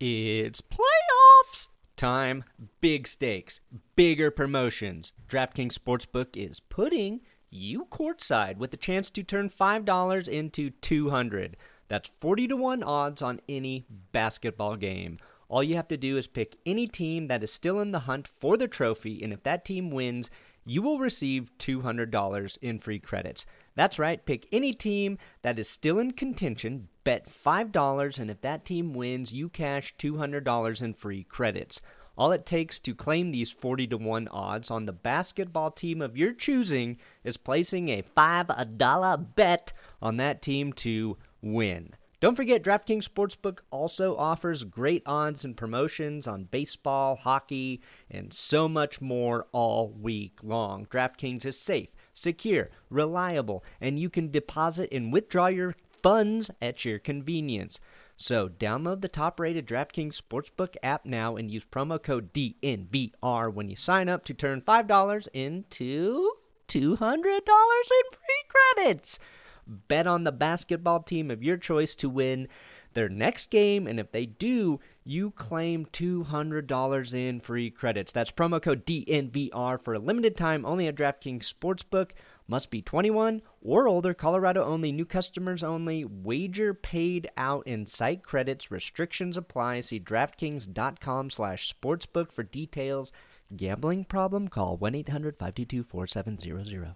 It's playoffs time. Big stakes, bigger promotions. DraftKings Sportsbook is putting you courtside with the chance to turn $5 into $200. That's 40-1 odds on any basketball game. All you have to do is pick any team that is still in the hunt for the trophy, and if that team wins, you will receive $200 in free credits. That's right, pick any team that is still in contention, bet $5, and if that team wins, you cash $200 in free credits. All it takes to claim these 40-1 odds on the basketball team of your choosing is placing a $5 bet on that team to win. Don't forget, DraftKings Sportsbook also offers great odds and promotions on baseball, hockey, and so much more all week long. DraftKings is safe, secure, reliable, and you can deposit and withdraw your funds at your convenience. So download the top-rated DraftKings Sportsbook app now and use promo code DNVR when you sign up to turn $5 into $200 in free credits. Bet on the basketball team of your choice to win their next game, and if they do, you claim $200 in free credits. That's promo code DNVR for a limited time only at DraftKings Sportsbook. Must be 21 or older, Colorado only, new customers only, wager paid out in site credits, restrictions apply. See DraftKings.com/sportsbook for details. Gambling problem? Call 1-800-522-4700.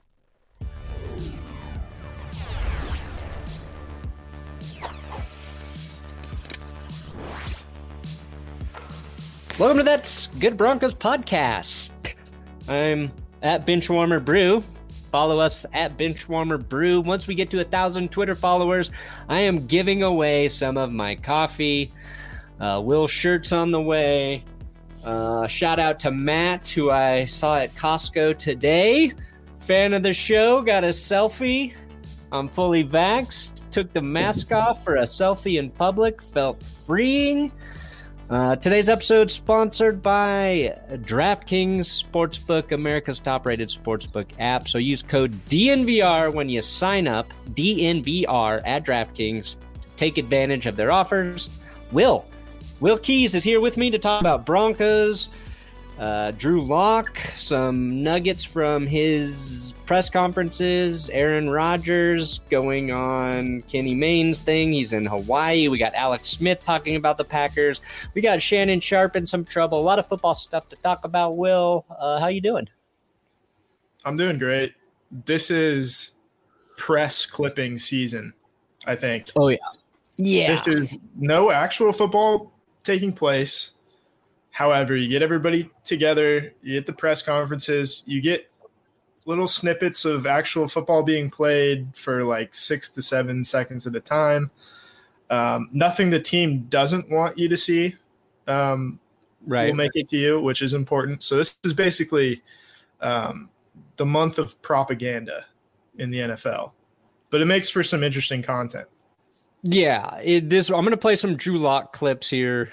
Welcome to That's Good Broncos podcast. I'm at Benchwarmer Brew. Follow us at Benchwarmer Brew. Once we get to 1,000 Twitter followers, I am giving away some of my coffee. Will shirts on the way. Shout out to Matt, who I saw at Costco today. Fan of the show, got a selfie. I'm fully vaxxed. Took the mask off for a selfie in public. Felt freeing. Today's episode sponsored by DraftKings Sportsbook, America's top-rated sportsbook app. So use code DNVR when you sign up, DNVR at DraftKings. Take advantage of their offers. Will Keys is here with me to talk about Broncos. Drew Lock, some nuggets from his press conferences. Aaron Rodgers going on Kenny Mayne's thing. He's in Hawaii. We got Alex Smith talking about the Packers. We got Shannon Sharpe in some trouble. A lot of football stuff to talk about. Will, how you doing? I'm doing great. This is press clipping season, I think. Oh, yeah. Yeah. This is no actual football taking place. However, you get everybody together, you get the press conferences, you get little snippets of actual football being played for like 6 to 7 seconds at a time. Nothing the team doesn't want you to see will make it to you, which is important. So this is basically the month of propaganda in the NFL. But it makes for some interesting content. Yeah, I'm going to play some Drew Lock clips here.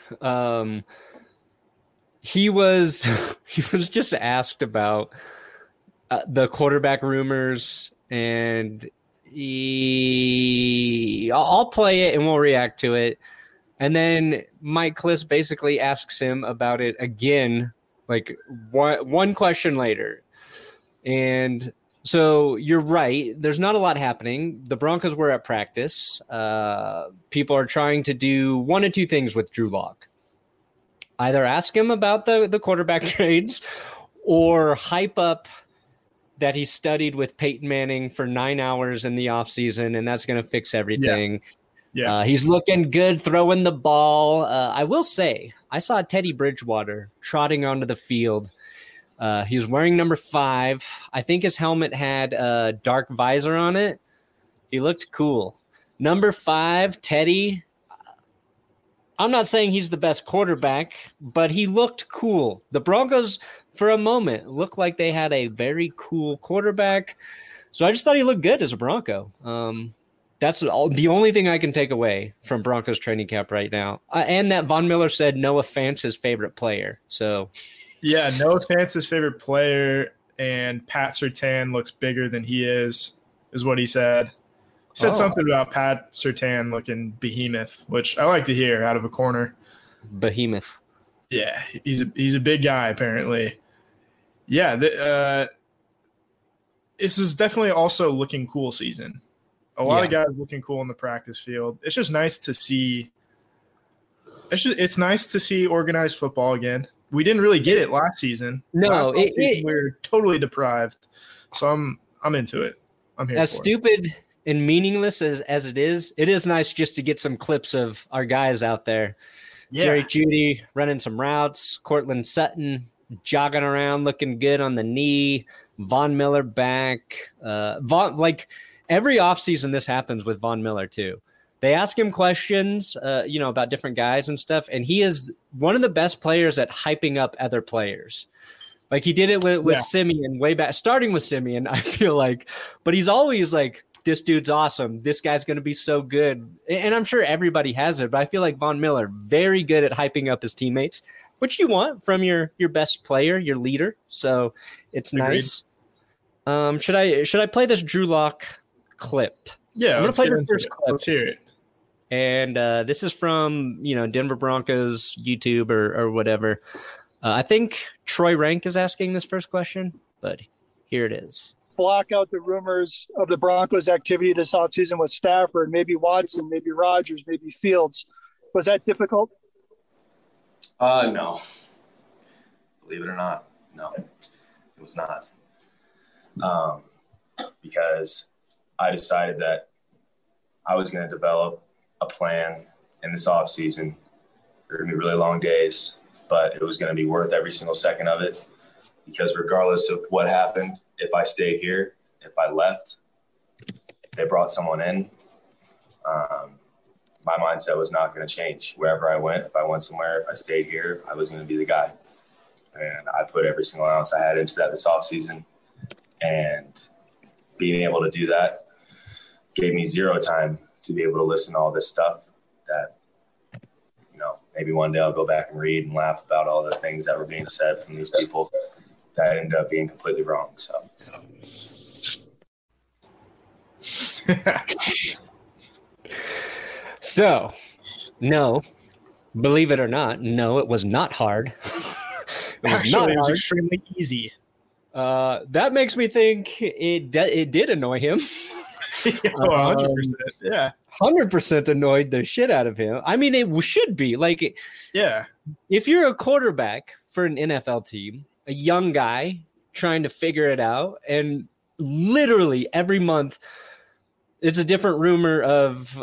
He was just asked about the quarterback rumors, and I'll play it and we'll react to it. And then Mike Klis basically asks him about it again, like one question later. And so you're right. There's not a lot happening. The Broncos were at practice. People are trying to do one of two things with Drew Lock. Either ask him about the quarterback trades or hype up that he studied with Peyton Manning for 9 hours in the offseason, and that's going to fix everything. Yeah. He's looking good throwing the ball. I will say, I saw Teddy Bridgewater trotting onto the field. He was wearing number 5. I think his helmet had a dark visor on it. He looked cool. Number 5, Teddy. I'm not saying he's the best quarterback, but he looked cool. The Broncos, for a moment, looked like they had a very cool quarterback. So I just thought he looked good as a Bronco. That's the only thing I can take away from Broncos training camp right now. And that Von Miller said Noah Fant's his favorite player. So, yeah, Noah Fant's his favorite player, and Pat Surtain looks bigger than he is what he said. Said something about Pat Surtain looking behemoth, which I like to hear out of a corner. behemoth. Yeah, he's a big guy apparently. Yeah, this is definitely also looking cool season. A lot of guys looking cool in the practice field. It's just nice to see. It's nice to see organized football again. We didn't really get it last season. No, we were totally deprived. So I'm into it. I'm here. As stupid and meaningless as it is nice just to get some clips of our guys out there. Yeah. Jerry Jeudy running some routes, Cortland Sutton jogging around, looking good on the knee, Von Miller back. Every offseason this happens with Von Miller too. They ask him questions, about different guys and stuff, and he is one of the best players at hyping up other players. Like he did it with Simeon way back, starting with Simeon, I feel like. But he's always like, this dude's awesome. This guy's going to be so good. And I'm sure everybody has it, but I feel like Von Miller, very good at hyping up his teammates, which you want from your best player, your leader. So it's nice. Should I play this Drew Lock clip? Yeah, I'm going to play the first clip. Let's hear it. And this is from, Denver Broncos YouTube or whatever. I think Troy Rank is asking this first question, but here it is. Block out the rumors of the Broncos' activity this offseason with Stafford, maybe Watson, maybe Rodgers, maybe Fields. Was that difficult? No. Believe it or not, no, it was not. Because I decided that I was going to develop a plan in this offseason. There were going to be really long days, but it was going to be worth every single second of it, because regardless of what happened, if I stayed here, if I left, they brought someone in, my mindset was not going to change. Wherever I went, if I went somewhere, if I stayed here, I was going to be the guy. And I put every single ounce I had into that this offseason. And being able to do that gave me zero time to be able to listen to all this stuff that, maybe one day I'll go back and read and laugh about all the things that were being said from these people that ended up being completely wrong. So, no, believe it or not, no, it was not hard. It was extremely easy. That makes me think it did annoy him. 100%. Yeah. 100% annoyed the shit out of him. I mean, it should be. Like, yeah. If you're a quarterback for an NFL team, a young guy trying to figure it out, and literally every month it's a different rumor of,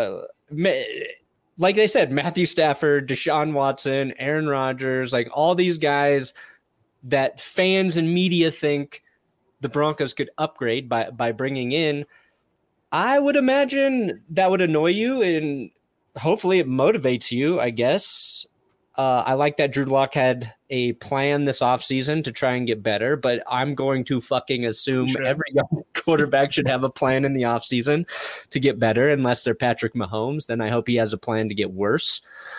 like they said, Matthew Stafford, Deshaun Watson, Aaron Rodgers, like all these guys that fans and media think the Broncos could upgrade by bringing in. I would imagine that would annoy you, and hopefully it motivates you, I guess. I like that Drew Lock had a plan this offseason to try and get better, but I'm going to fucking assume every young quarterback should have a plan in the offseason to get better, unless they're Patrick Mahomes. Then I hope he has a plan to get worse.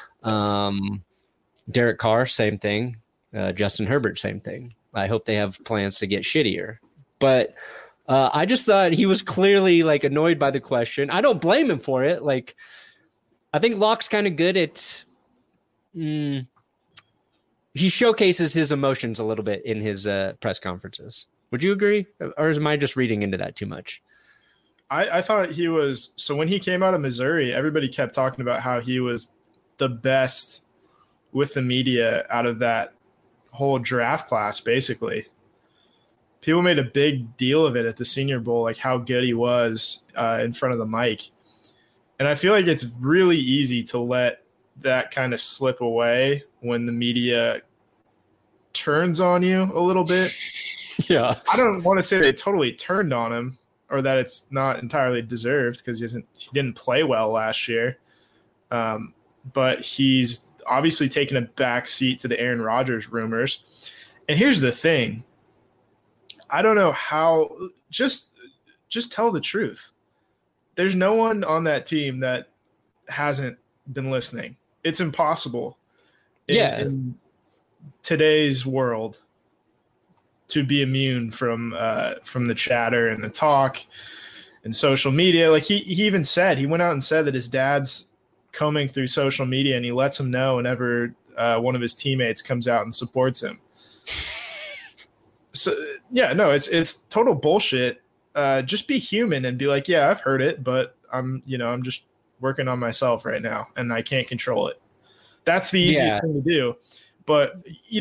Derek Carr, same thing. Justin Herbert, same thing. I hope they have plans to get shittier. But I just thought he was clearly like annoyed by the question. I don't blame him for it. Like, I think Locke's kind of good at he showcases his emotions a little bit in his press conferences. Would you agree? Or am I just reading into that too much? I thought he was. So when he came out of Missouri, everybody kept talking about how he was the best with the media out of that whole draft class, basically. People made a big deal of it at the Senior Bowl, like how good he was in front of the mic. And I feel like it's really easy to let that kind of slip away when the media turns on you a little bit. Yeah. I don't want to say they totally turned on him or that it's not entirely deserved, because he didn't play well last year. But he's obviously taken a back seat to the Aaron Rodgers rumors. And here's the thing. I don't know how – just tell the truth. There's no one on that team that hasn't been listening. It's impossible in today's world to be immune from the chatter and the talk and social media. Like he even said, he went out and said that his dad's combing through social media, and he lets him know whenever one of his teammates comes out and supports him. So yeah, no, it's total bullshit. Just be human and be like, yeah, I've heard it, but I'm just working on myself right now and I can't control it. That's the easiest thing to do. But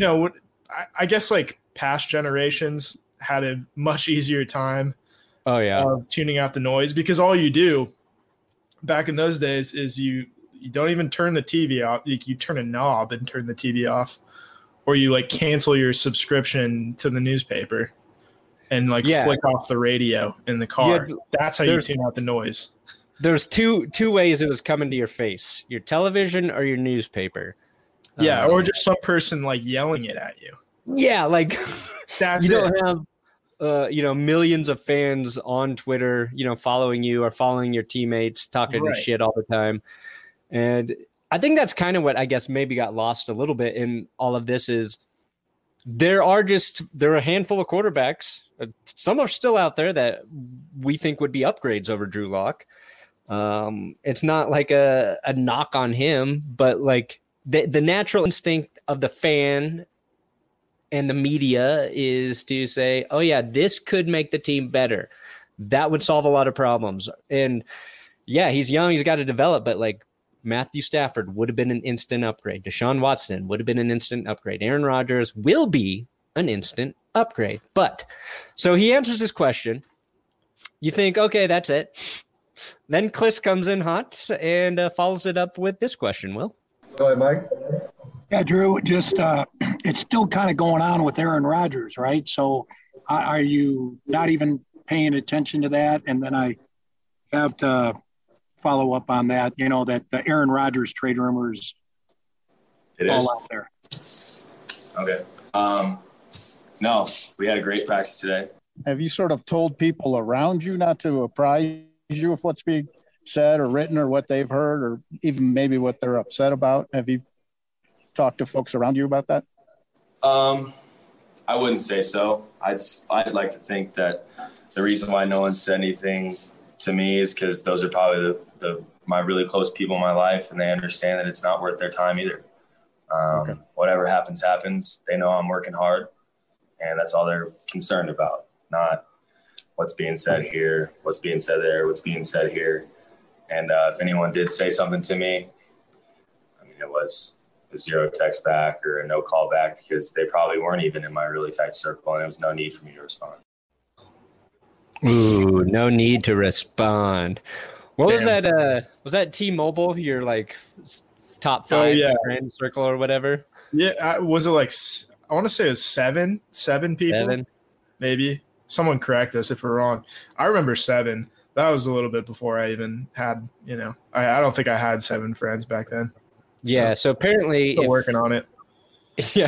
I guess like past generations had a much easier time tuning out the noise, because all you do back in those days is you don't even turn the TV off. You turn a knob and turn the TV off, or you like cancel your subscription to the newspaper and flick off the radio in the car. That's how you tune out the noise. There's two ways it was coming to your face: your television or your newspaper. Yeah, or just some person yelling it at you. Yeah, that's you don't have millions of fans on Twitter, following you or following your teammates, talking shit all the time. And I think that's kind of what I guess maybe got lost a little bit in all of this is there are a handful of quarterbacks. Some are still out there that we think would be upgrades over Drew Lock. It's not like a knock on him, but the natural instinct of the fan and the media is to say, oh yeah, this could make the team better. That would solve a lot of problems. And yeah, he's young, he's got to develop, but Matthew Stafford would have been an instant upgrade. Deshaun Watson would have been an instant upgrade. Aaron Rodgers will be an instant upgrade. But so he answers this question. You think, okay, that's it. Then Kliss comes in hot and follows it up with this question. Will? Go ahead, Mike. Yeah, Drew, just it's still kind of going on with Aaron Rodgers, right? So are you not even paying attention to that? And then I have to follow up on that, that the Aaron Rodgers trade rumors all out there. Okay. No, we had a great practice today. Have you sort of told people around you not to apprise you of what's being said or written or what they've heard or even maybe what they're upset about? Have you talked to folks around you about that? I wouldn't say so. I'd like to think that the reason why no one said anything to me is because those are probably my really close people in my life, and they understand that it's not worth their time either. Whatever happens. They know I'm working hard, and that's all they're concerned about, not what's being said here, what's being said there, what's being said here. And if anyone did say something to me, I mean, it was a zero text back or a no call back, because they probably weren't even in my really tight circle, and there was no need for me to respond. Ooh, no need to respond. What was that? Was that T-Mobile? Your top 5 friend circle or whatever? Yeah, was it I want to say it was seven people? 7? Maybe. Someone correct us if we're wrong. I remember 7. That was a little bit before I even had, I don't think I had 7 friends back then. So apparently still working on it. Yeah.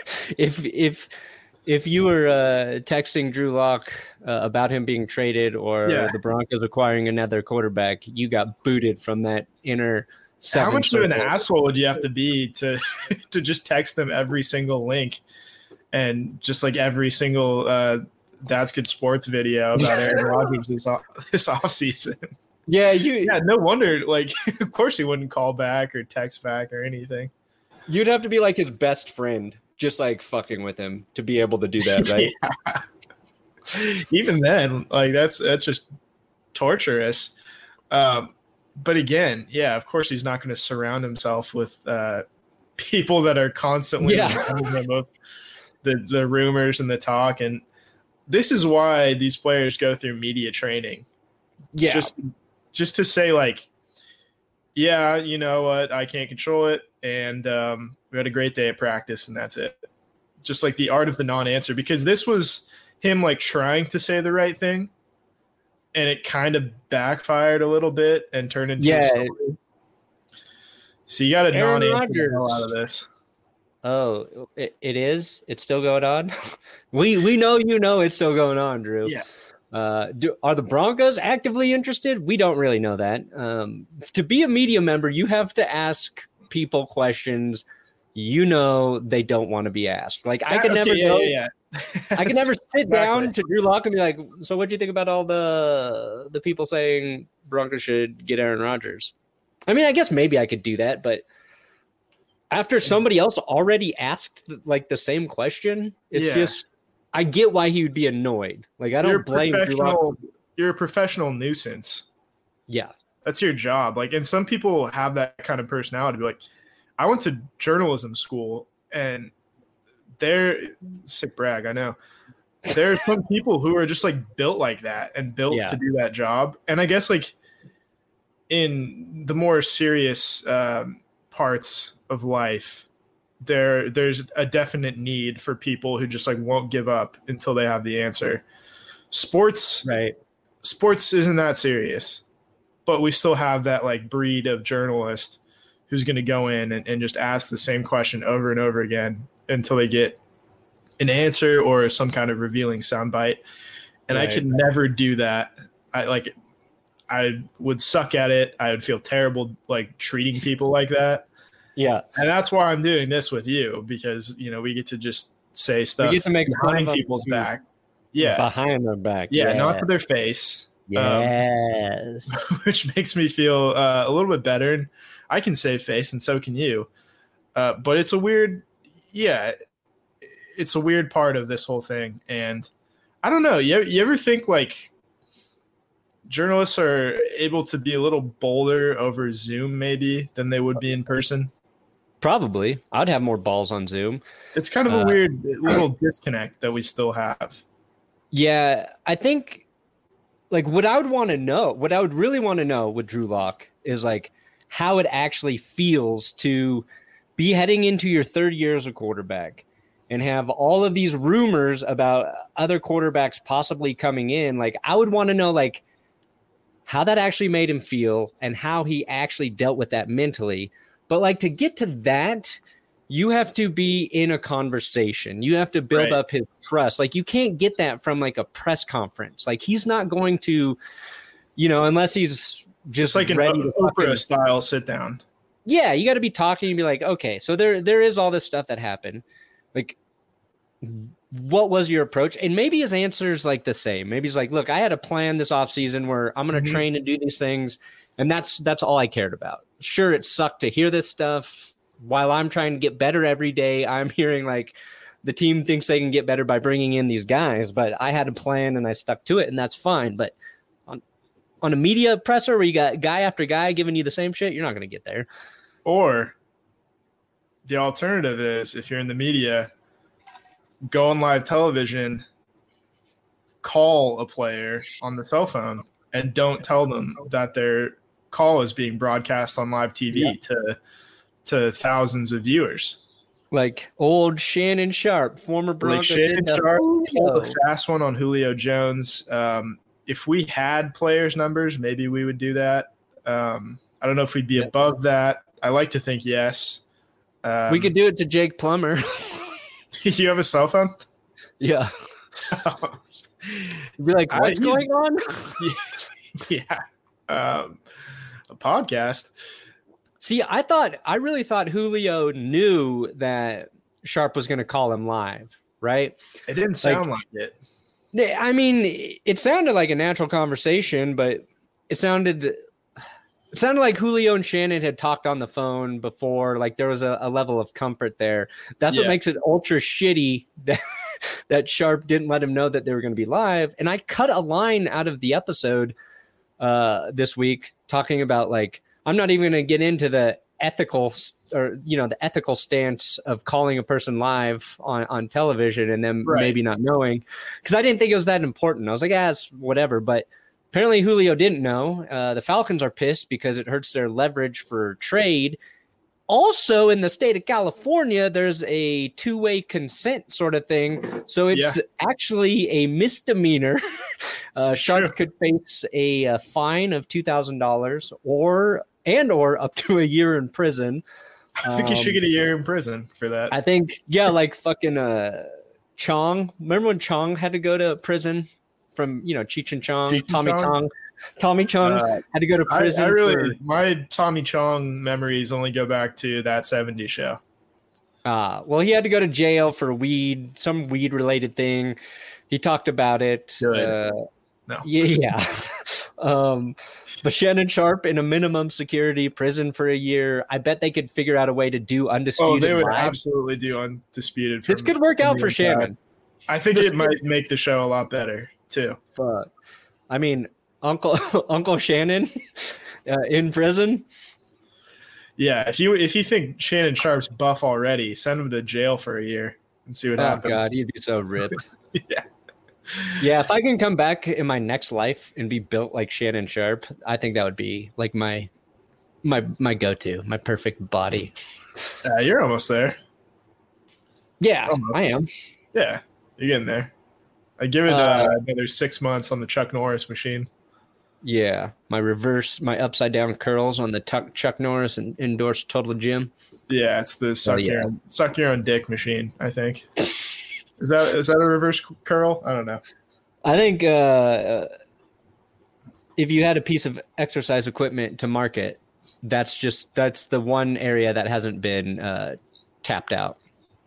If you were texting Drew Lock about him being traded or the Broncos acquiring another quarterback, you got booted from that inner 7 How much circle. of an asshole would you have to be to just text them every single link and just every single That's Good Sports video about Aaron Rodgers this offseason? Yeah, no wonder. Of course he wouldn't call back or text back or anything. You'd have to be his best friend, just fucking with him to be able to do that, right? Yeah. Even then, that's just torturous. But again, yeah, of course he's not going to surround himself with people that are constantly reminding him of the rumors and the talk. And this is why these players go through media training. Yeah. Just to say yeah, you know what? I can't control it. And we had a great day at practice, and that's it. Just the art of the non-answer, because this was him trying to say the right thing, and it kind of backfired a little bit and turned into a story. So you got to non-answer the hell out of this. Oh, it is? It's still going on? we know it's still going on, Drew. Yeah. Are the Broncos actively interested? We don't really know that. To be a media member, you have to ask people questions they don't want to be asked. I can never go. Yeah. I can never sit down to Drew Lock and be like, so what do you think about all the people saying Broncos should get Aaron Rodgers? I mean, I guess maybe I could do that, but after somebody else already asked like the same question, it's just I get why he would be annoyed. Like I don't blame Drew Lock. You're a professional nuisance. Yeah. That's your job. Like, and some people have that kind of personality. Be like, I went to journalism school, and they're sick brag. I know there are some people who are just like built like that and built to do that job. And I guess like in the more serious parts of life, there's a definite need for people who just like won't give up until they have the answer. Sports isn't that serious. But we still have that like breed of journalist who's going to go in and just ask the same question over and over again until they get an answer or some kind of revealing soundbite. And I could never do that. I would suck at it. I would feel terrible like treating people like that. Yeah. And that's why I'm doing this with you, because, you know, we get to just say stuff we get to make behind people's back. Yeah. Behind their back. Yeah. Not to their face. Yes. Which makes me feel a little bit better. And I can save face, and so can you. But it's a weird, it's a weird part of this whole thing. And I don't know. You ever think like journalists are able to be a little bolder over Zoom maybe than they would be in person? Probably. I'd have more balls on Zoom. It's kind of a weird little disconnect that we still have. Yeah, I think like what I would really want to know with Drew Lock is like how it actually feels to be heading into your third year as a quarterback and have all of these rumors about other quarterbacks possibly coming in. Like I would want to know like how that actually made him feel and how he actually dealt with that mentally. But like to get to that, you have to be in a conversation. You have to build up his trust. Like you can't get that from like a press conference. Like he's not going to, you know, unless he's just like an ready to Oprah style sit down. Yeah, you got to be talking and be like, okay, so there is all this stuff that happened. Like, what was your approach? And maybe his answer is like the same. Maybe he's like, look, I had a plan this offseason where I'm going to train and do these things, and that's all I cared about. Sure, it sucked to hear this stuff. While I'm trying to get better every day, I'm hearing like the team thinks they can get better by bringing in these guys, but I had a plan and I stuck to it, and that's fine. But on a media presser where you got guy after guy giving you the same shit, you're not going to get there. Or the alternative is, if you're in the media, go on live television, call a player on the cell phone, and don't tell them that their call is being broadcast on live TV to thousands of viewers. Like old Shannon Sharpe, former Bronco. Like Shannon Sharpe pulled a fast one on Julio Jones. If we had players' numbers, maybe we would do that. I don't know if we'd be above that. I like to think yes. We could do it to Jake Plummer. You have a cell phone? Yeah. You'd be like, what's going on? Yeah. A podcast. See, I really thought Julio knew that Sharpe was going to call him live, right? It didn't sound like it. I mean, it sounded like a natural conversation, but it sounded like Julio and Shannon had talked on the phone before. Like there was a level of comfort there. That's what makes it ultra shitty that Sharpe didn't let him know that they were going to be live. And I cut a line out of the episode this week talking about like, I'm not even going to get into the ethical stance of calling a person live on television and them maybe not knowing, because I didn't think it was that important. I was like, it's whatever. But apparently Julio didn't know. The Falcons are pissed because it hurts their leverage for trade. Also, in the state of California, there's a two-way consent sort of thing. So it's actually a misdemeanor. Sharpe could face a fine of $2,000 or up to a year in prison. I think you should get a year in prison for that. I think, like fucking Chong. Remember when Chong had to go to prison from, Cheech and Chong, Tommy Chong had to go to prison. My Tommy Chong memories only go back to that 70s show. Well, he had to go to jail for some weed related thing. He talked about it. No. Yeah. But Shannon Sharp in a minimum security prison for a year. I bet they could figure out a way to do Undisputed. Oh, they would live. absolutely do Undisputed. This could work out for Shannon. I think it might make the show a lot better too. But I mean, Uncle Shannon in prison. Yeah, if you think Shannon Sharp's buff already, send him to jail for a year and see what happens. Oh God, he'd be so ripped. Yeah. Yeah, if I can come back in my next life and be built like Shannon Sharp, I think that would be like my go-to, my perfect body. You're almost there. Yeah, Almost. I am. Yeah, you're getting there. I give it another 6 months on the Chuck Norris machine. Yeah, my upside down curls on the Chuck Norris and endorsed Total Gym. Yeah, it's the suck your own dick machine, I think. Is that a reverse curl? I don't know. I think if you had a piece of exercise equipment to market, that's the one area that hasn't been tapped out.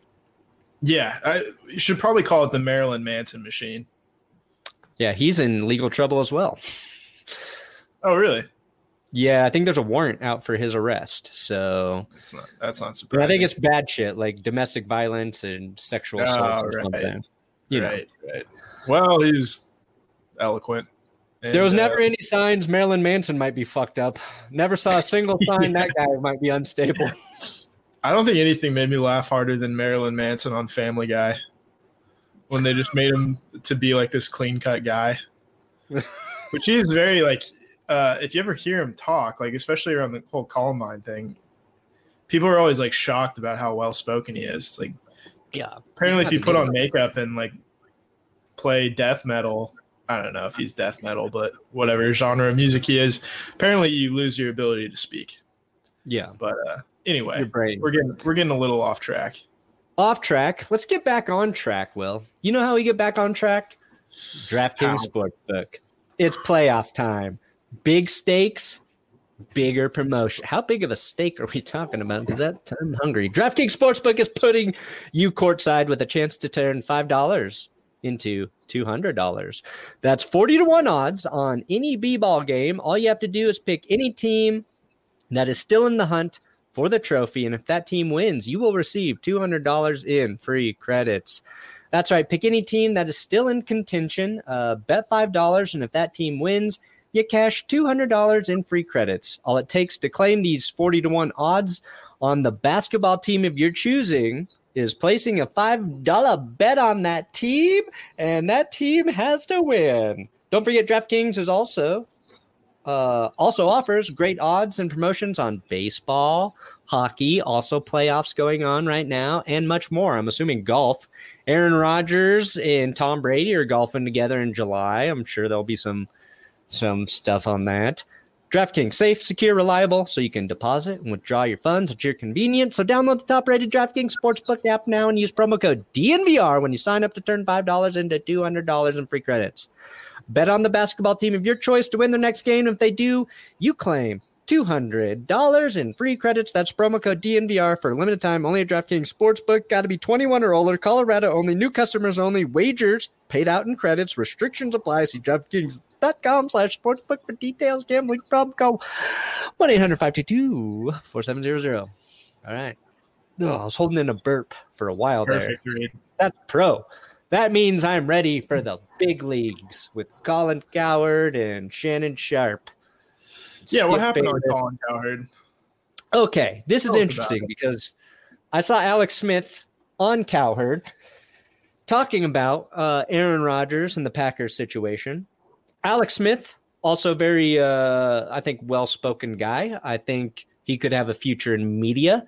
Yeah, you should probably call it the Marilyn Manson machine. Yeah, he's in legal trouble as well. Oh, really? Yeah, I think there's a warrant out for his arrest. So that's not surprising. I think it's bad shit like domestic violence and sexual assault or something. Right. Well, he's eloquent. And, there was never any signs Marilyn Manson might be fucked up. Never saw a single sign that guy might be unstable. I don't think anything made me laugh harder than Marilyn Manson on Family Guy when they just made him to be like this clean-cut guy, which he is very like. If you ever hear him talk, like especially around the whole Columbine thing, people are always like shocked about how well spoken he is. It's like, yeah, apparently, if you put on makeup and like play death metal, I don't know if he's death metal, but whatever genre of music he is, apparently you lose your ability to speak. Yeah, but anyway, we're getting a little off track. Off track. Let's get back on track, Will. You know how we get back on track? DraftKings Sportsbook. It's playoff time. Big stakes, bigger promotion. How big of a stake are we talking about? Because I'm hungry. DraftKings Sportsbook is putting you courtside with a chance to turn $5 into $200. That's 40-1 odds on any b-ball game. All you have to do is pick any team that is still in the hunt for the trophy, and if that team wins, you will receive $200 in free credits. That's right. Pick any team that is still in contention. Bet $5, and if that team wins, you cash $200 in free credits. All it takes to claim these 40-1 odds on the basketball team of your choosing is placing a $5 bet on that team, and that team has to win. Don't forget, DraftKings is also offers great odds and promotions on baseball, hockey, also playoffs going on right now, and much more. I'm assuming golf. Aaron Rodgers and Tom Brady are golfing together in July. I'm sure there'll be some stuff on that. DraftKings, safe, secure, reliable, so you can deposit and withdraw your funds at your convenience. So download the top-rated DraftKings Sportsbook app now and use promo code DNVR when you sign up to turn $5 into $200 in free credits. Bet on the basketball team of your choice to win their next game. If they do, you claim $200 in free credits. That's promo code DNVR for a limited time. Only at DraftKings Sportsbook. Got to be 21 or older. Colorado only. New customers only. Wagers paid out in credits. Restrictions apply. See DraftKings.com/sportsbook for details. Gambling problem. Call 1-800-522-4700. All right. Oh, I was holding in a burp for a while. Perfect there. read. That's pro. That means I'm ready for the big leagues with Colin Cowherd and Shannon Sharp. Yeah, what happened on Colin Cowherd? Okay, this is interesting because I saw Alex Smith on Cowherd talking about Aaron Rodgers and the Packers situation. Alex Smith, also very, I think, well-spoken guy. I think he could have a future in media.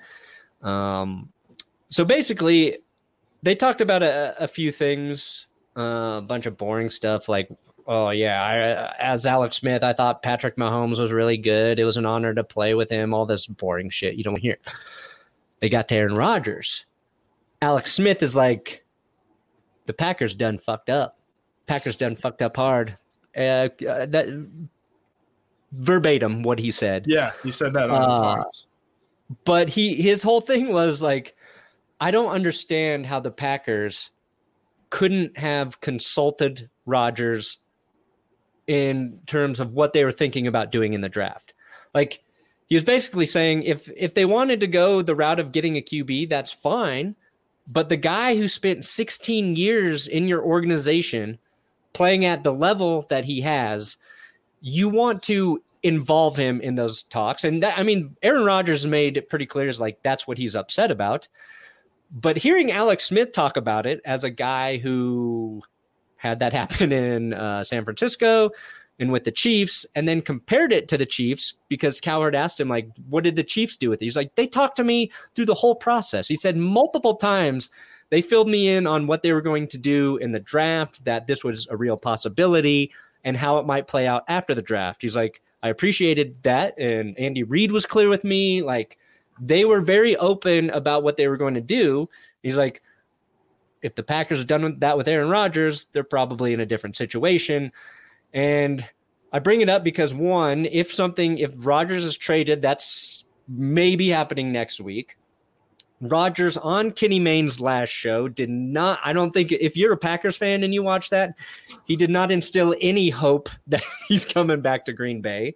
So basically, they talked about a few things, a bunch of boring stuff like, oh, yeah, as Alex Smith, I thought Patrick Mahomes was really good. It was an honor to play with him, all this boring shit you don't hear. They got to Aaron Rodgers. Alex Smith is like, the Packers done fucked up. Packers done fucked up hard. That verbatim what he said. Yeah, he said that on Fox. But his whole thing was like, I don't understand how the Packers couldn't have consulted Rodgers in terms of what they were thinking about doing in the draft. Like, he was basically saying if they wanted to go the route of getting a QB, that's fine. But the guy who spent 16 years in your organization playing at the level that he has, you want to involve him in those talks. And that, I mean, Aaron Rodgers made it pretty clear is like, that's what he's upset about. But hearing Alex Smith talk about it as a guy who had that happen in San Francisco and with the Chiefs, and then compared it to the Chiefs because Cowherd asked him, like, what did the Chiefs do with it? He's like, they talked to me through the whole process. He said multiple times they filled me in on what they were going to do in the draft, that this was a real possibility and how it might play out after the draft. He's like, I appreciated that. And Andy Reid was clear with me. Like, they were very open about what they were going to do. He's like, if the Packers have done that with Aaron Rodgers, they're probably in a different situation. And I bring it up because, one, if Rodgers is traded, that's maybe happening next week. Rodgers on Kenny Mayne's last show I don't think, if you're a Packers fan and you watch that, he did not instill any hope that he's coming back to Green Bay.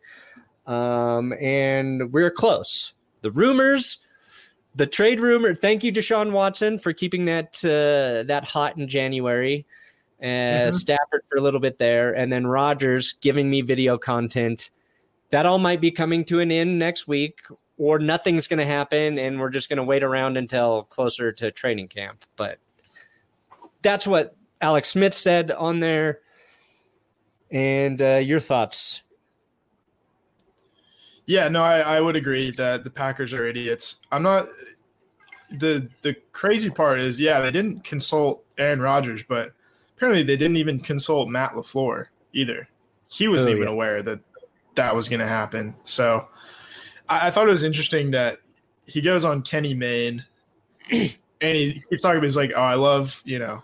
And we're close. The rumors, the trade rumor, thank you, Deshaun Watson, for keeping that hot in January. Stafford for a little bit there, and then Rodgers giving me video content. That all might be coming to an end next week, or nothing's going to happen, and we're just going to wait around until closer to training camp. But that's what Alex Smith said on there. And your thoughts? Yeah, no, I would agree that the Packers are idiots. I'm not – the crazy part is, yeah, they didn't consult Aaron Rodgers, but – apparently, they didn't even consult Matt LaFleur either. He wasn't even aware that was going to happen. So I thought it was interesting that he goes on Kenny Mayne and he keeps talking about, he's like, oh, I love,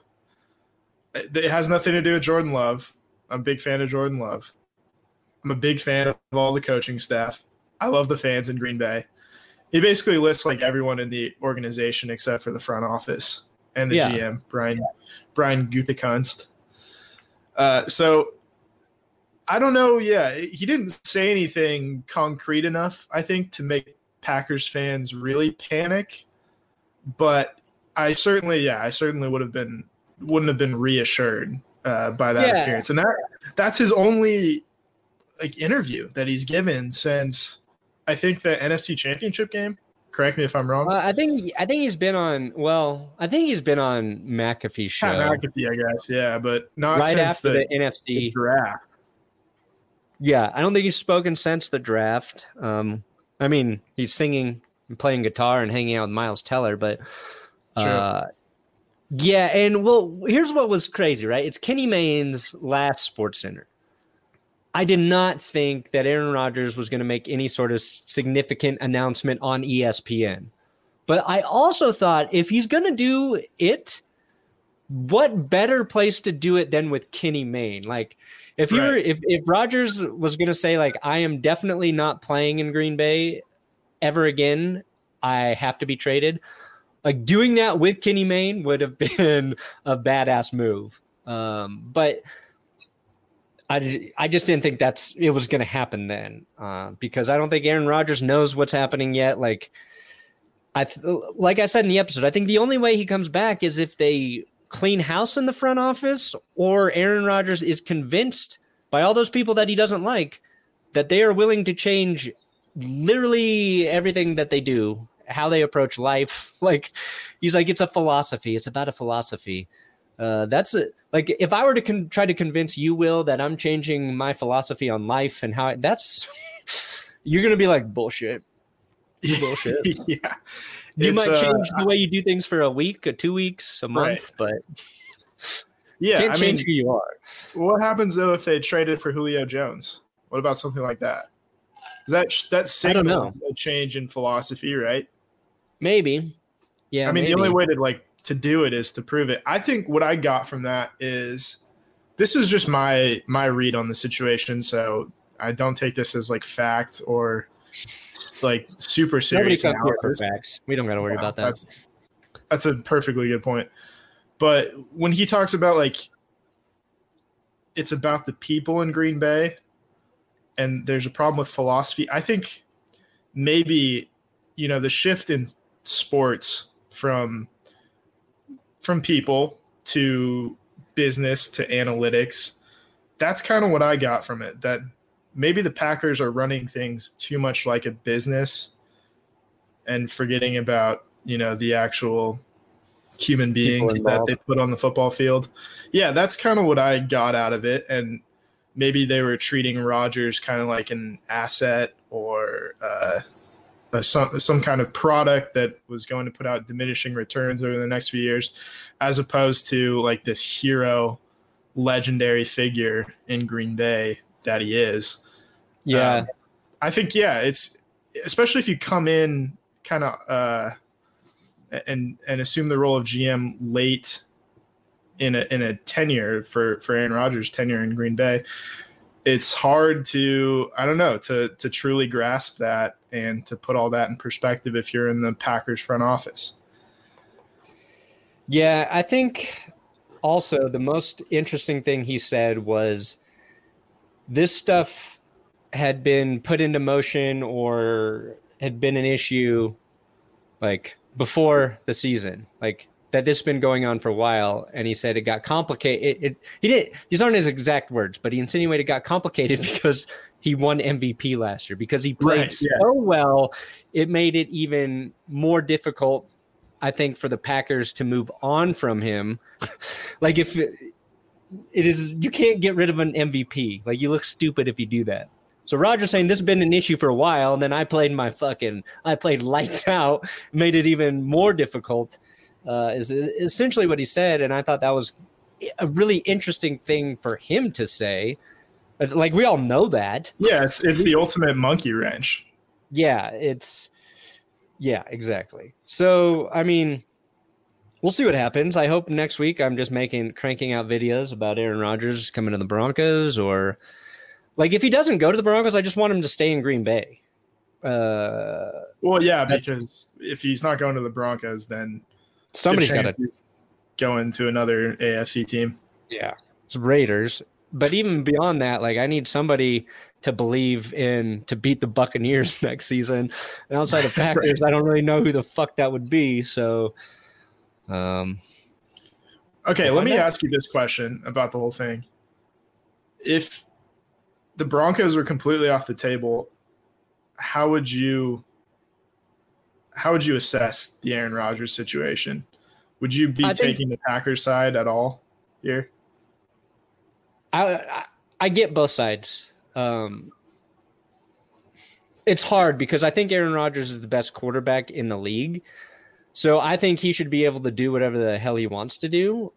it has nothing to do with Jordan Love. I'm a big fan of Jordan Love. I'm a big fan of all the coaching staff. I love the fans in Green Bay. He basically lists like everyone in the organization except for the front office and the GM, Brian Gutekunst. So I don't know. Yeah, he didn't say anything concrete enough, I think, to make Packers fans really panic. But I certainly wouldn't have been reassured by that appearance. And that's his only interview that he's given since I think the NFC Championship game. Correct me if I'm wrong. I think he's been on. Well, I think he's been on McAfee's show. McAfee, I guess, yeah, but not right since after the NFC draft. Yeah, I don't think he's spoken since the draft. I mean, he's singing and playing guitar and hanging out with Miles Teller, but yeah. And well, here's what was crazy, right? It's Kenny Mayne's last SportsCenter. I did not think that Aaron Rodgers was going to make any sort of significant announcement on ESPN. But I also thought if he's going to do it, what better place to do it than with Kenny Mayne? Like if Rodgers was going to say like, I am definitely not playing in Green Bay ever again, I have to be traded. Like doing that with Kenny Mayne would have been a badass move. But I just didn't think it was going to happen then because I don't think Aaron Rodgers knows what's happening yet. Like I said in the episode, I think the only way he comes back is if they clean house in the front office or Aaron Rodgers is convinced by all those people that he doesn't like that they are willing to change literally everything that they do, how they approach life. Like he's like, it's a philosophy. It's about a philosophy. That's it. Like if I were to try to convince you, Will, that I'm changing my philosophy on life and how you're going to be like bullshit. Bullshit. Yeah. You might change the way you do things for a week, or 2 weeks, a month, but can't change who you are. What happens though if they traded for Julio Jones? What about something like that? Is that signals a change in philosophy, right? Maybe. Yeah. I mean, the only way to do it is to prove it. I think what I got from that is this is just my read on the situation. So I don't take this as like fact or like super serious. Nobody comes here for facts. We don't got to worry about that. That's a perfectly good point. But when he talks about like it's about the people in Green Bay, and there's a problem with philosophy. I think maybe, the shift in sports from people to business to analytics, that's kind of what I got from it, that maybe the Packers are running things too much like a business and forgetting about, the actual human beings that they put on the football field. Yeah, that's kind of what I got out of it. And maybe they were treating Rodgers kind of like an asset or some kind of product that was going to put out diminishing returns over the next few years, as opposed to like this hero, legendary figure in Green Bay that he is. Yeah. I think, it's especially if you come in kind of and assume the role of GM late in a tenure for Aaron Rodgers' tenure in Green Bay, it's hard to, I don't know, to truly grasp that and to put all that in perspective if you're in the Packers front office. Yeah, I think also the most interesting thing he said was this stuff had been put into motion or had been an issue like before the season, like that this has been going on for a while. And he said it got complicated. These aren't his exact words, but he insinuated it got complicated because he won MVP last year, because he played so well. It made it even more difficult, I think, for the Packers to move on from him. Like if it is, you can't get rid of an MVP. Like you look stupid if you do that. So Rodgers saying this has been an issue for a while, and then I played lights out, made it even more difficult, is essentially what he said. And I thought that was a really interesting thing for him to say. Like we all know that. Yeah, it's the ultimate monkey wrench. Yeah, exactly. So, I mean, we'll see what happens. I hope next week I'm just cranking out videos about Aaron Rodgers coming to the Broncos, or like if he doesn't go to the Broncos, I just want him to stay in Green Bay. Well, yeah, because if he's not going to the Broncos, then somebody's got to go into another AFC team. Yeah, it's Raiders. But even beyond that, like I need somebody to believe in to beat the Buccaneers next season. And outside of Packers, I don't really know who the fuck that would be. So, okay, let me ask you this question about the whole thing. If the Broncos were completely off the table, how would you assess the Aaron Rodgers situation? Would you be taking the Packers side at all here? I get both sides. It's hard because I think Aaron Rodgers is the best quarterback in the league. So I think he should be able to do whatever the hell he wants to do.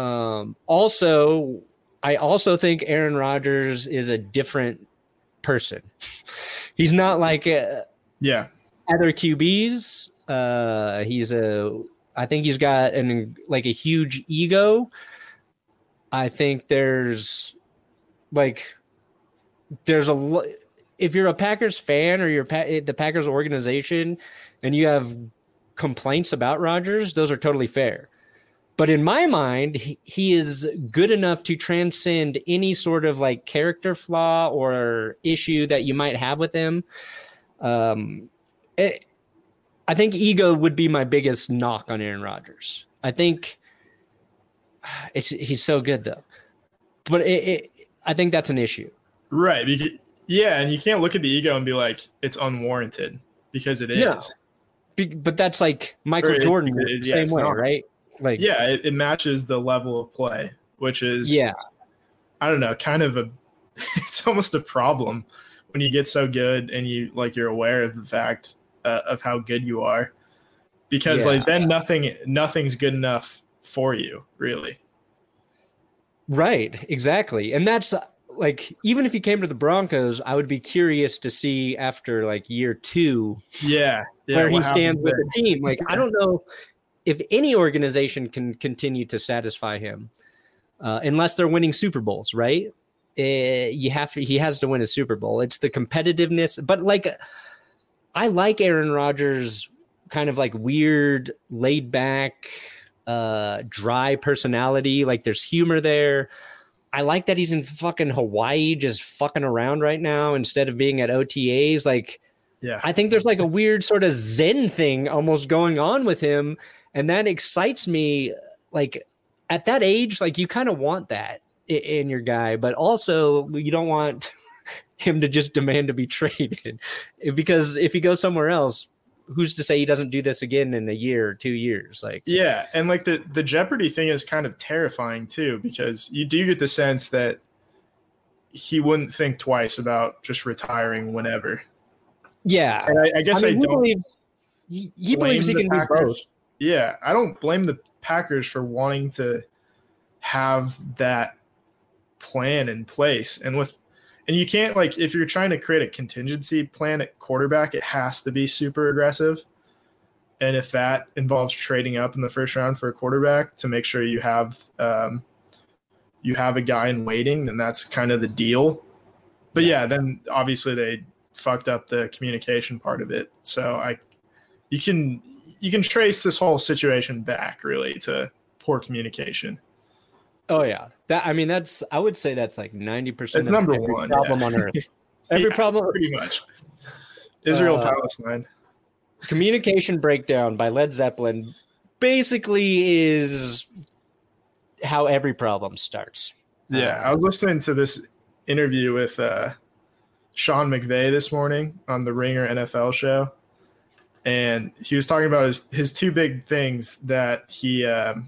I also think Aaron Rodgers is a different person. He's not like other QBs. I think he's got a huge ego. I think if you're a Packers fan or you're the Packers organization and you have complaints about Rodgers, those are totally fair. But in my mind, he is good enough to transcend any sort of like character flaw or issue that you might have with him. I think ego would be my biggest knock on Aaron Rodgers. I think he's so good though, but I think that's an issue. Right. Yeah. And you can't look at the ego and be like, it's unwarranted, because it is. Yeah. But that's like Michael Jordan the same way, right? Like, yeah, it matches the level of play, which is, I don't know, kind of it's almost a problem when you get so good and you're aware of the fact of how good you are, because then nothing's good enough for you, really. Right, exactly. And that's like, even if he came to the Broncos, I would be curious to see after like year 2 where he stands with the team. Like, I don't know if any organization can continue to satisfy him unless they're winning Super Bowls, right? He has to win a Super Bowl. It's the competitiveness. But like, I like Aaron Rodgers' kind of like weird, laid back, dry personality. Like there's humor there. I like that he's in fucking Hawaii just fucking around right now instead of being at OTAs. Like, Yeah. I think there's like a weird sort of Zen thing almost going on with him. And that excites me. Like at that age, like you kind of want that in your guy, but also you don't want him to just demand to be traded, because if he goes somewhere else, who's to say he doesn't do this again in a year or 2 years? Like, yeah. And like the Jeopardy thing is kind of terrifying too, because you do get the sense that he wouldn't think twice about just retiring whenever. yeah. And I guess I mean, don't he believes he can do both. Yeah. I don't blame the Packers for wanting to have that plan in place. And you can't, like, if you're trying to create a contingency plan at quarterback, it has to be super aggressive. And if that involves trading up in the first round for a quarterback to make sure you have a guy in waiting, then that's kind of the deal. But yeah, then obviously they fucked up the communication part of it. So you can trace this whole situation back really to poor communication. Oh yeah, I would say that's like 90% It's of number every one problem on earth. Every problem, pretty much. Israel Palestine. Communication Breakdown by Led Zeppelin basically is how every problem starts. Yeah, I was listening to this interview with Sean McVay this morning on the Ringer NFL show, and he was talking about his two big things that he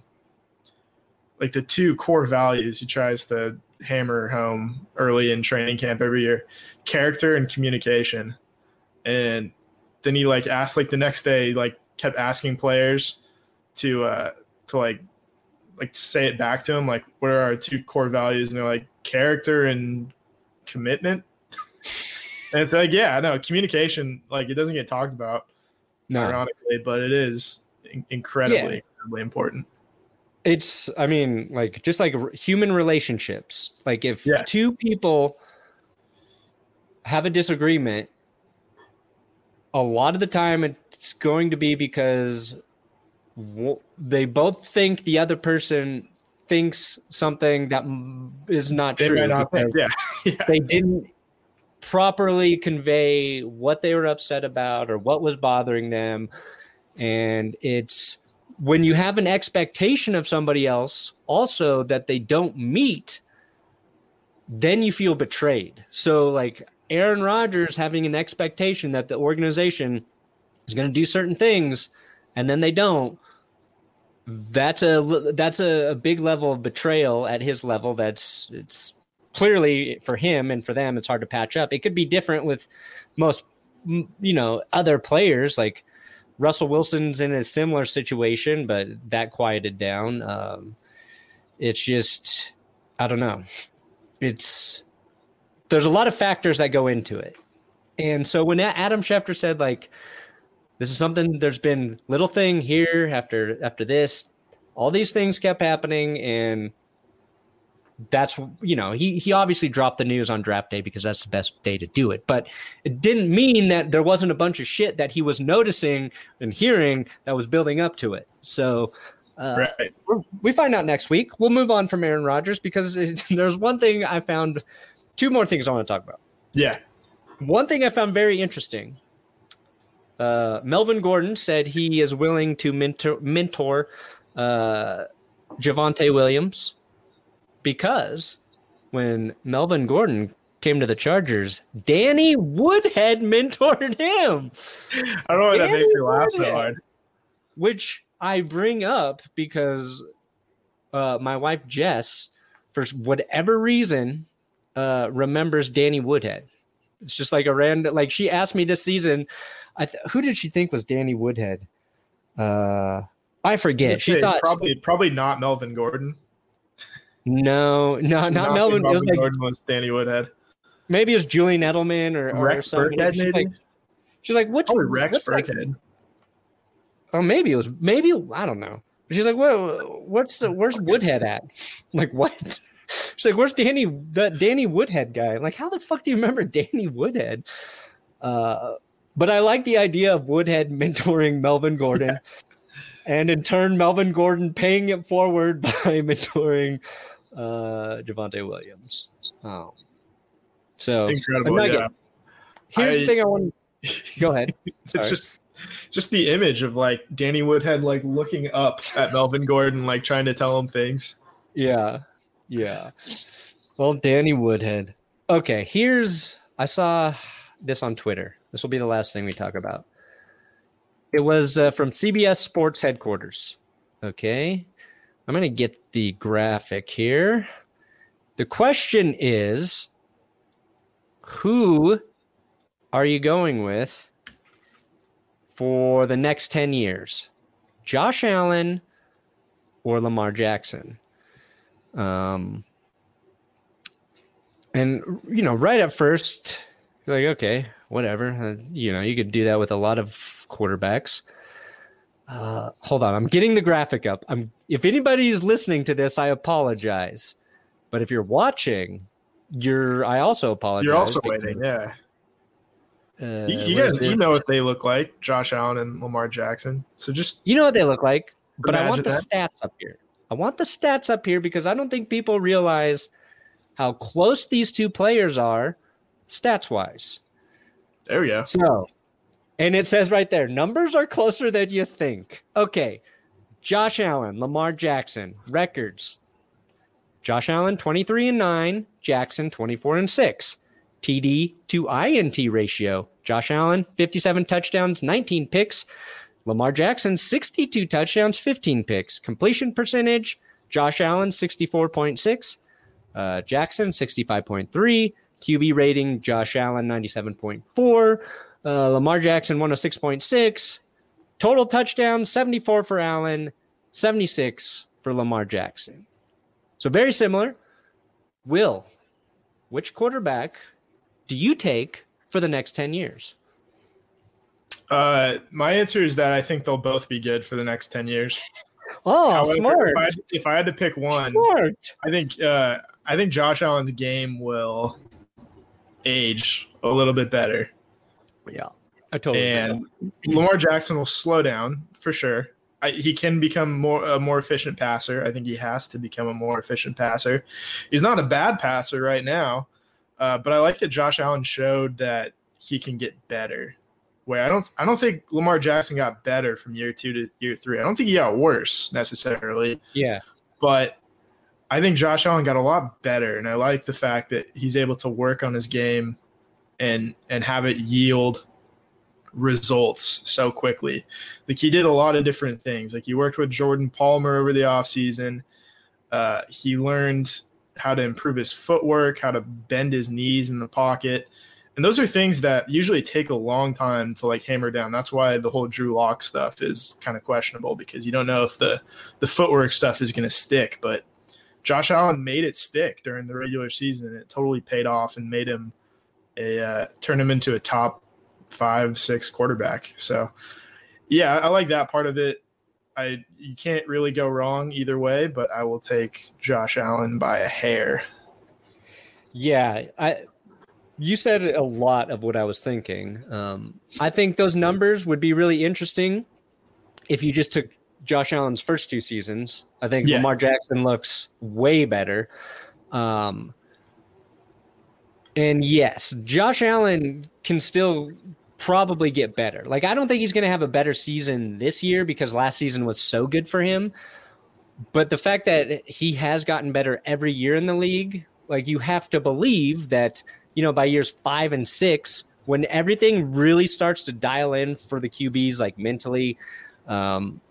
like the two core values he tries to hammer home early in training camp every year: character and communication. And then he like asked, like the next day, like kept asking players to like say it back to him, like, what are our two core values? And they're like, character and commitment. And it's like, yeah, no, communication, like, it doesn't get talked about, ironically, but it is incredibly important. It's, I mean, like, just like human relationships. Like, if two people have a disagreement, a lot of the time it's going to be because they both think the other person thinks something that is not true. Might not think, They didn't properly convey what they were upset about or what was bothering them. And it's when you have an expectation of somebody else also that they don't meet, then you feel betrayed. So like Aaron Rodgers having an expectation that the organization is going to do certain things and then they don't, that's a big level of betrayal at his level. It's clearly for him, and for them, it's hard to patch up. It could be different with most, other players. Like Russell Wilson's in a similar situation, but that quieted down. It's just, I don't know. There's a lot of factors that go into it. And so when Adam Schefter said, like, this is something, there's been little thing here after this, all these things kept happening. And that's, he obviously dropped the news on draft day because that's the best day to do it. But it didn't mean that there wasn't a bunch of shit that he was noticing and hearing that was building up to it. So right. We find out next week. We'll move on from Aaron Rodgers because there's one thing I found, two more things I want to talk about. Yeah. One thing I found very interesting. Melvin Gordon said he is willing to mentor Javonte Williams because when Melvin Gordon came to the Chargers, Danny Woodhead mentored him. I don't know why that makes me laugh so hard. Which I bring up because my wife Jess, for whatever reason, remembers Danny Woodhead. It's just like a random, like she asked me this season, who did she think was Danny Woodhead? I forget. She thought probably not Melvin Gordon. No, not Melvin. Melvin Gordon was Danny Woodhead. Maybe it was Julian Edelman or Rex something. Burkhead, She's like, what's Rex Burkhead? Oh, maybe I don't know. She's like, well, where's Woodhead at? I'm like, what? She's like, where's Danny Woodhead guy? I'm like, how the fuck do you remember Danny Woodhead? But I like the idea of Woodhead mentoring Melvin Gordon, and in turn, Melvin Gordon paying it forward by mentoring Javonte Williams. So Incredible. Nugget, Yeah. here's the thing I want. Go ahead. It's just the image of like Danny Woodhead like looking up at Melvin Gordon, like trying to tell him things. Yeah. Well, Danny Woodhead. Okay, I saw this on Twitter. This will be the last thing we talk about. It was from CBS Sports headquarters. Okay, I'm going to get the graphic here. The question is, who are you going with for the next 10 years? Josh Allen or Lamar Jackson? And, right at first, you're like, okay, whatever. You could do that with a lot of quarterbacks. Hold on. I'm getting the graphic up. If anybody's listening to this, I apologize. But if you're watching, I also apologize. You're also waiting, yeah. You guys, know what they look like, Josh Allen and Lamar Jackson. So just you know what they look like, but I want the that. stats up here. I want the stats up here because I don't think people realize how close these two players are stats-wise. There we go. So, and it says right there, numbers are closer than you think. Okay, Josh Allen, Lamar Jackson, records. Josh Allen, 23-9, Jackson, 24-6. TD to INT ratio. Josh Allen, 57 touchdowns, 19 picks. Lamar Jackson, 62 touchdowns, 15 picks. Completion percentage, Josh Allen, 64.6. Jackson, 65.3. QB rating, Josh Allen, 97.4. Lamar Jackson, 106.6. Total touchdowns, 74 for Allen, 76 for Lamar Jackson. So very similar. Will, which quarterback do you take for the next 10 years? My answer is that I think they'll both be good for the next 10 years. Oh, however, smart. If I had to pick one, Smart. I think Josh Allen's game will age a little bit better. Yeah, I totally and Lamar Jackson will slow down for sure. He can become a more efficient passer. I think he has to become a more efficient passer. He's not a bad passer right now, but I like that Josh Allen showed that he can get better. Where I don't think Lamar Jackson got better from year 2 to year 3. I don't think he got worse necessarily. Yeah, but I think Josh Allen got a lot better, and I like the fact that he's able to work on his game and have it yield results so quickly. Like he did a lot of different things. Like he worked with Jordan Palmer over the offseason. He learned how to improve his footwork, how to bend his knees in the pocket. And those are things that usually take a long time to like hammer down. That's why the whole Drew Lock stuff is kind of questionable, because you don't know if the footwork stuff is going to stick. But Josh Allen made it stick during the regular season, and it totally paid off and made him turned him into a top 5-6 quarterback. So yeah, I like that part of it. You can't really go wrong either way, but I will take Josh Allen by a hair. Yeah, you said a lot of what I was thinking. I think those numbers would be really interesting if you just took Josh Allen's first 2 seasons. I think Lamar Jackson looks way better. And yes, Josh Allen can still probably get better. Like, I don't think he's going to have a better season this year because last season was so good for him. But the fact that he has gotten better every year in the league, like, you have to believe that, by years 5 and 6, when everything really starts to dial in for the QBs, like mentally, from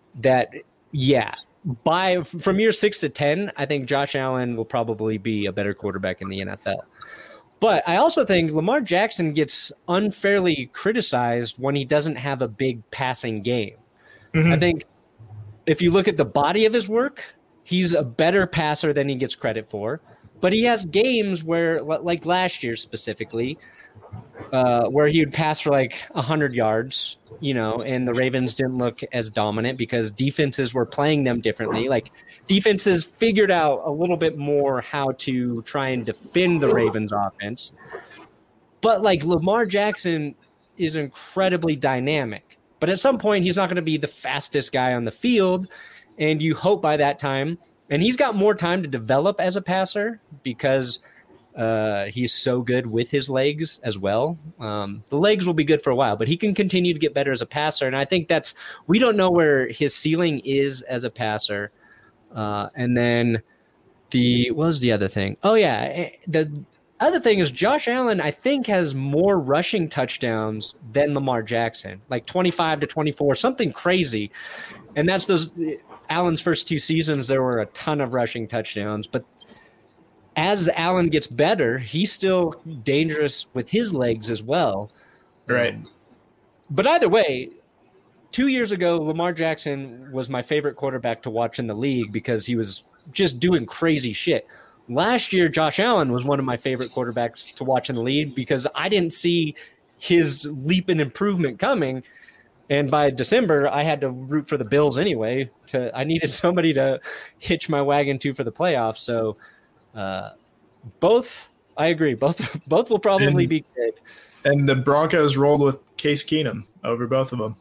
year 6 to 10, I think Josh Allen will probably be a better quarterback in the NFL. But I also think Lamar Jackson gets unfairly criticized when he doesn't have a big passing game. Mm-hmm. I think if you look at the body of his work, he's a better passer than he gets credit for. But he has games where, like last year specifically, where he would pass for like 100 yards, and the Ravens didn't look as dominant because defenses were playing them differently. Like defenses figured out a little bit more how to try and defend the Ravens offense. But like Lamar Jackson is incredibly dynamic. But at some point, he's not going to be the fastest guy on the field. And you hope by that time And he's got more time to develop as a passer because he's so good with his legs as well. The legs will be good for a while, but he can continue to get better as a passer. And I think we don't know where his ceiling is as a passer. And then what was the other thing? Oh yeah. The other thing is Josh Allen, I think, has more rushing touchdowns than Lamar Jackson, like 25 to 24, something crazy. And that's Allen's first 2 seasons, there were a ton of rushing touchdowns. But as Allen gets better, he's still dangerous with his legs as well. Right. But either way, 2 years ago, Lamar Jackson was my favorite quarterback to watch in the league because he was just doing crazy shit. Last year, Josh Allen was one of my favorite quarterbacks to watch in the league because I didn't see his leap in improvement coming. And by December, I had to root for the Bills anyway. I needed somebody to hitch my wagon to for the playoffs. So both, I agree, both will probably be good. And the Broncos rolled with Case Keenum over both of them.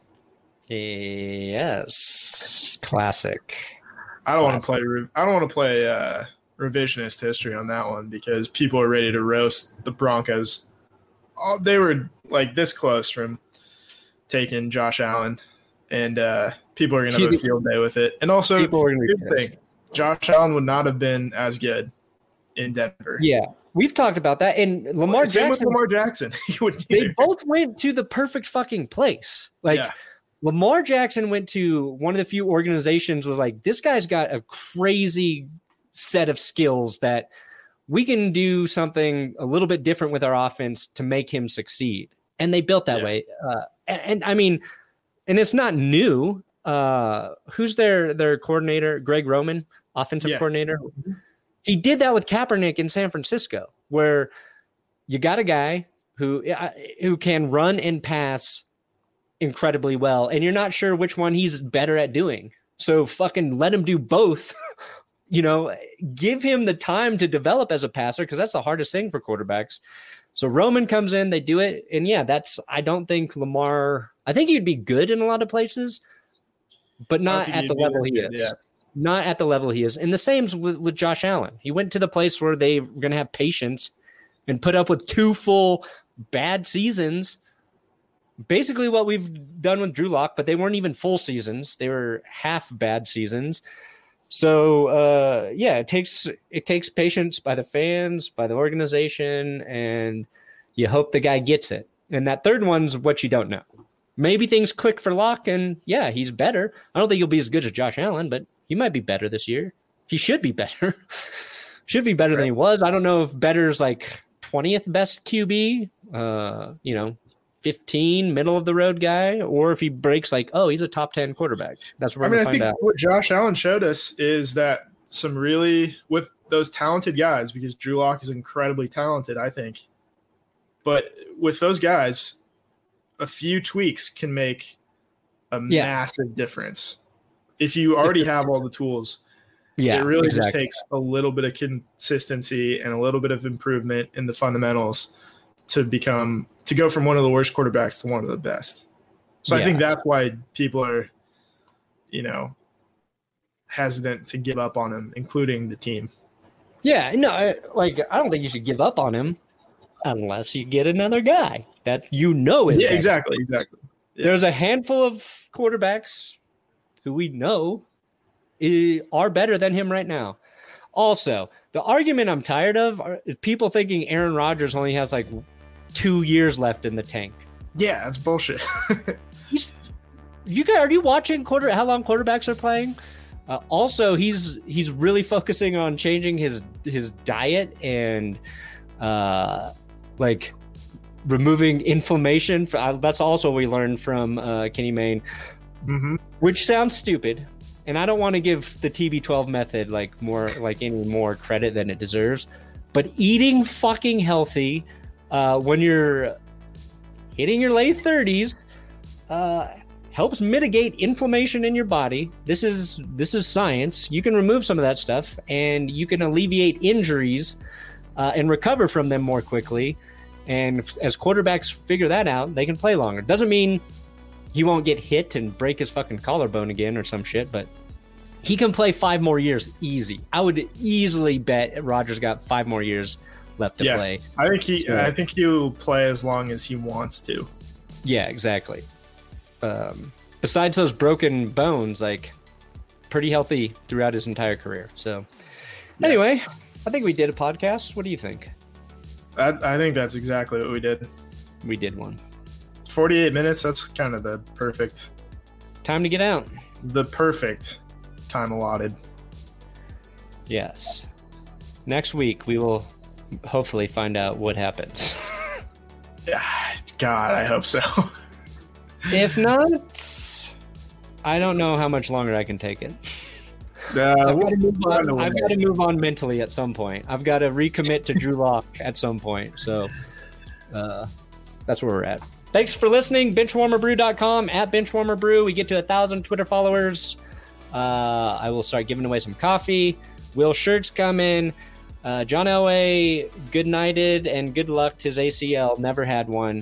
Yes, classic. I don't want to play revisionist history on that one because people are ready to roast the Broncos. They were like this close from taking Josh Allen, and people are going to have a field day with it. And also, Josh Allen would not have been as good in Denver. Yeah, we've talked about that. And Lamar Jackson, they both went to the perfect fucking place. Lamar Jackson went to one of the few organizations was like, this guy's got a crazy set of skills that we can do something a little bit different with our offense to make him succeed. And they built that way. And I mean, and it's not new. Who's their coordinator? Greg Roman, offensive coordinator. He did that with Kaepernick in San Francisco, where you got a guy who can run and pass incredibly well, and you're not sure which one he's better at doing. So fucking let him do both. Give him the time to develop as a passer because that's the hardest thing for quarterbacks. So Roman comes in, they do it, and I don't think Lamar. I think he'd be good in a lot of places, but not at the level he is. Yeah. Not at the level he is. And the same's with Josh Allen. He went to the place where they were going to have patience and put up with 2 full bad seasons. Basically what we've done with Drew Lock, but they weren't even full seasons. They were half bad seasons. So, it takes patience by the fans, by the organization, and you hope the guy gets it. And that third one's what you don't know. Maybe things click for Lock, and he's better. I don't think he'll be as good as Josh Allen, but he might be better this year. He should be better. Should be better than he was. I don't know if better's like 20th best QB, 15 middle of the road guy, or if he breaks he's a top 10 quarterback. That's what we're going to find out. What Josh Allen showed us is that some really, with those talented guys, because Drew Lock is incredibly talented, I think. But with those guys, a few tweaks can make a massive difference. If you already have all the tools, it really just takes a little bit of consistency and a little bit of improvement in the fundamentals to go from one of the worst quarterbacks to one of the best. So I think that's why people are, hesitant to give up on him, including the team. Yeah, no, I don't think you should give up on him unless you get another guy that is. Yeah, exactly. Yeah. There's a handful of quarterbacks who we know are better than him right now. Also, the argument I'm tired of is people thinking Aaron Rodgers only has 2 years left in the tank. Yeah, that's bullshit. Are you watching how long quarterbacks are playing? Also, he's really focusing on changing his diet and removing inflammation. That's also what we learned from Kenny Mayne, which sounds stupid. And I don't want to give the TB12 method any more credit than it deserves. But eating fucking healthy when you're hitting your late 30s helps mitigate inflammation in your body. This is science. You can remove some of that stuff, and you can alleviate injuries and recover from them more quickly. And as quarterbacks figure that out, they can play longer. Doesn't mean he won't get hit and break his fucking collarbone again or some shit, but He can play 5 more years easy. I would easily bet Rodgers got 5 more years left to play. I think he'll play as long as he wants to. Yeah, exactly. Besides those broken bones, like pretty healthy throughout his entire career. So anyway, I think we did a podcast. What do you think? I think that's exactly what we did. We did one. 48 minutes, that's kind of the perfect time to get out. The perfect time allotted. Yes. Next week, we will hopefully find out what happens. God, I hope so. If not, I don't know how much longer I can take it. I've got to move on mentally at some point. I've got to recommit to Drew Lock at some point. So that's where we're at. Thanks for listening. Benchwarmerbrew.com, at Benchwarmerbrew. We get to 1,000 Twitter followers. I will start giving away some coffee. Will shirts come in. John Elway, good nighted and good luck. His ACL never had one.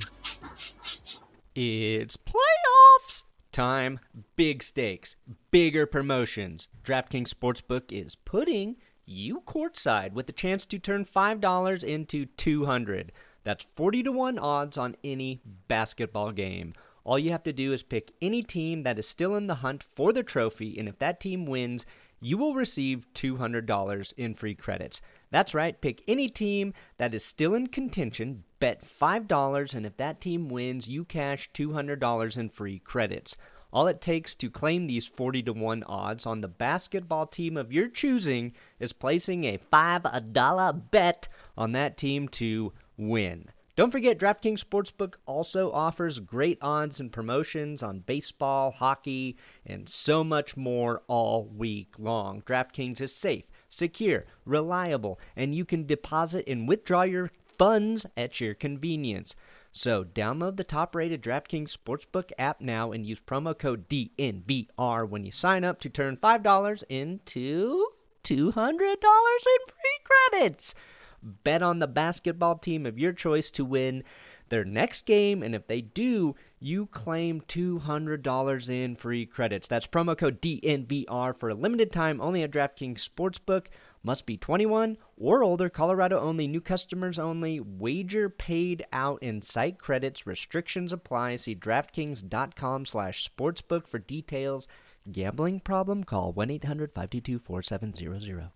It's playoffs time. Big stakes, bigger promotions. DraftKings Sportsbook is putting you courtside with the chance to turn $5 into $200. That's 40-1 odds on any basketball game. All you have to do is pick any team that is still in the hunt for the trophy, and if that team wins, you will receive $200 in free credits. That's right, pick any team that is still in contention, bet $5, and if that team wins, you cash $200 in free credits. All it takes to claim these 40-1 odds on the basketball team of your choosing is placing a $5 bet on that team to win. Don't forget, DraftKings Sportsbook also offers great odds and promotions on baseball, hockey, and so much more all week long. DraftKings is safe, secure, reliable, and you can deposit and withdraw your funds at your convenience. So download the top-rated DraftKings Sportsbook app now and use promo code DNVR when you sign up to turn $5 into $200 in free credits. Bet on the basketball team of your choice to win their next game, and if they do, you claim $200 in free credits. That's promo code DNVR for a limited time only at DraftKings Sportsbook. Must be 21 or older, Colorado only, new customers only, wager paid out in site credits, restrictions apply. See DraftKings.com/sportsbook for details. Gambling problem? Call 1-800-522-4700.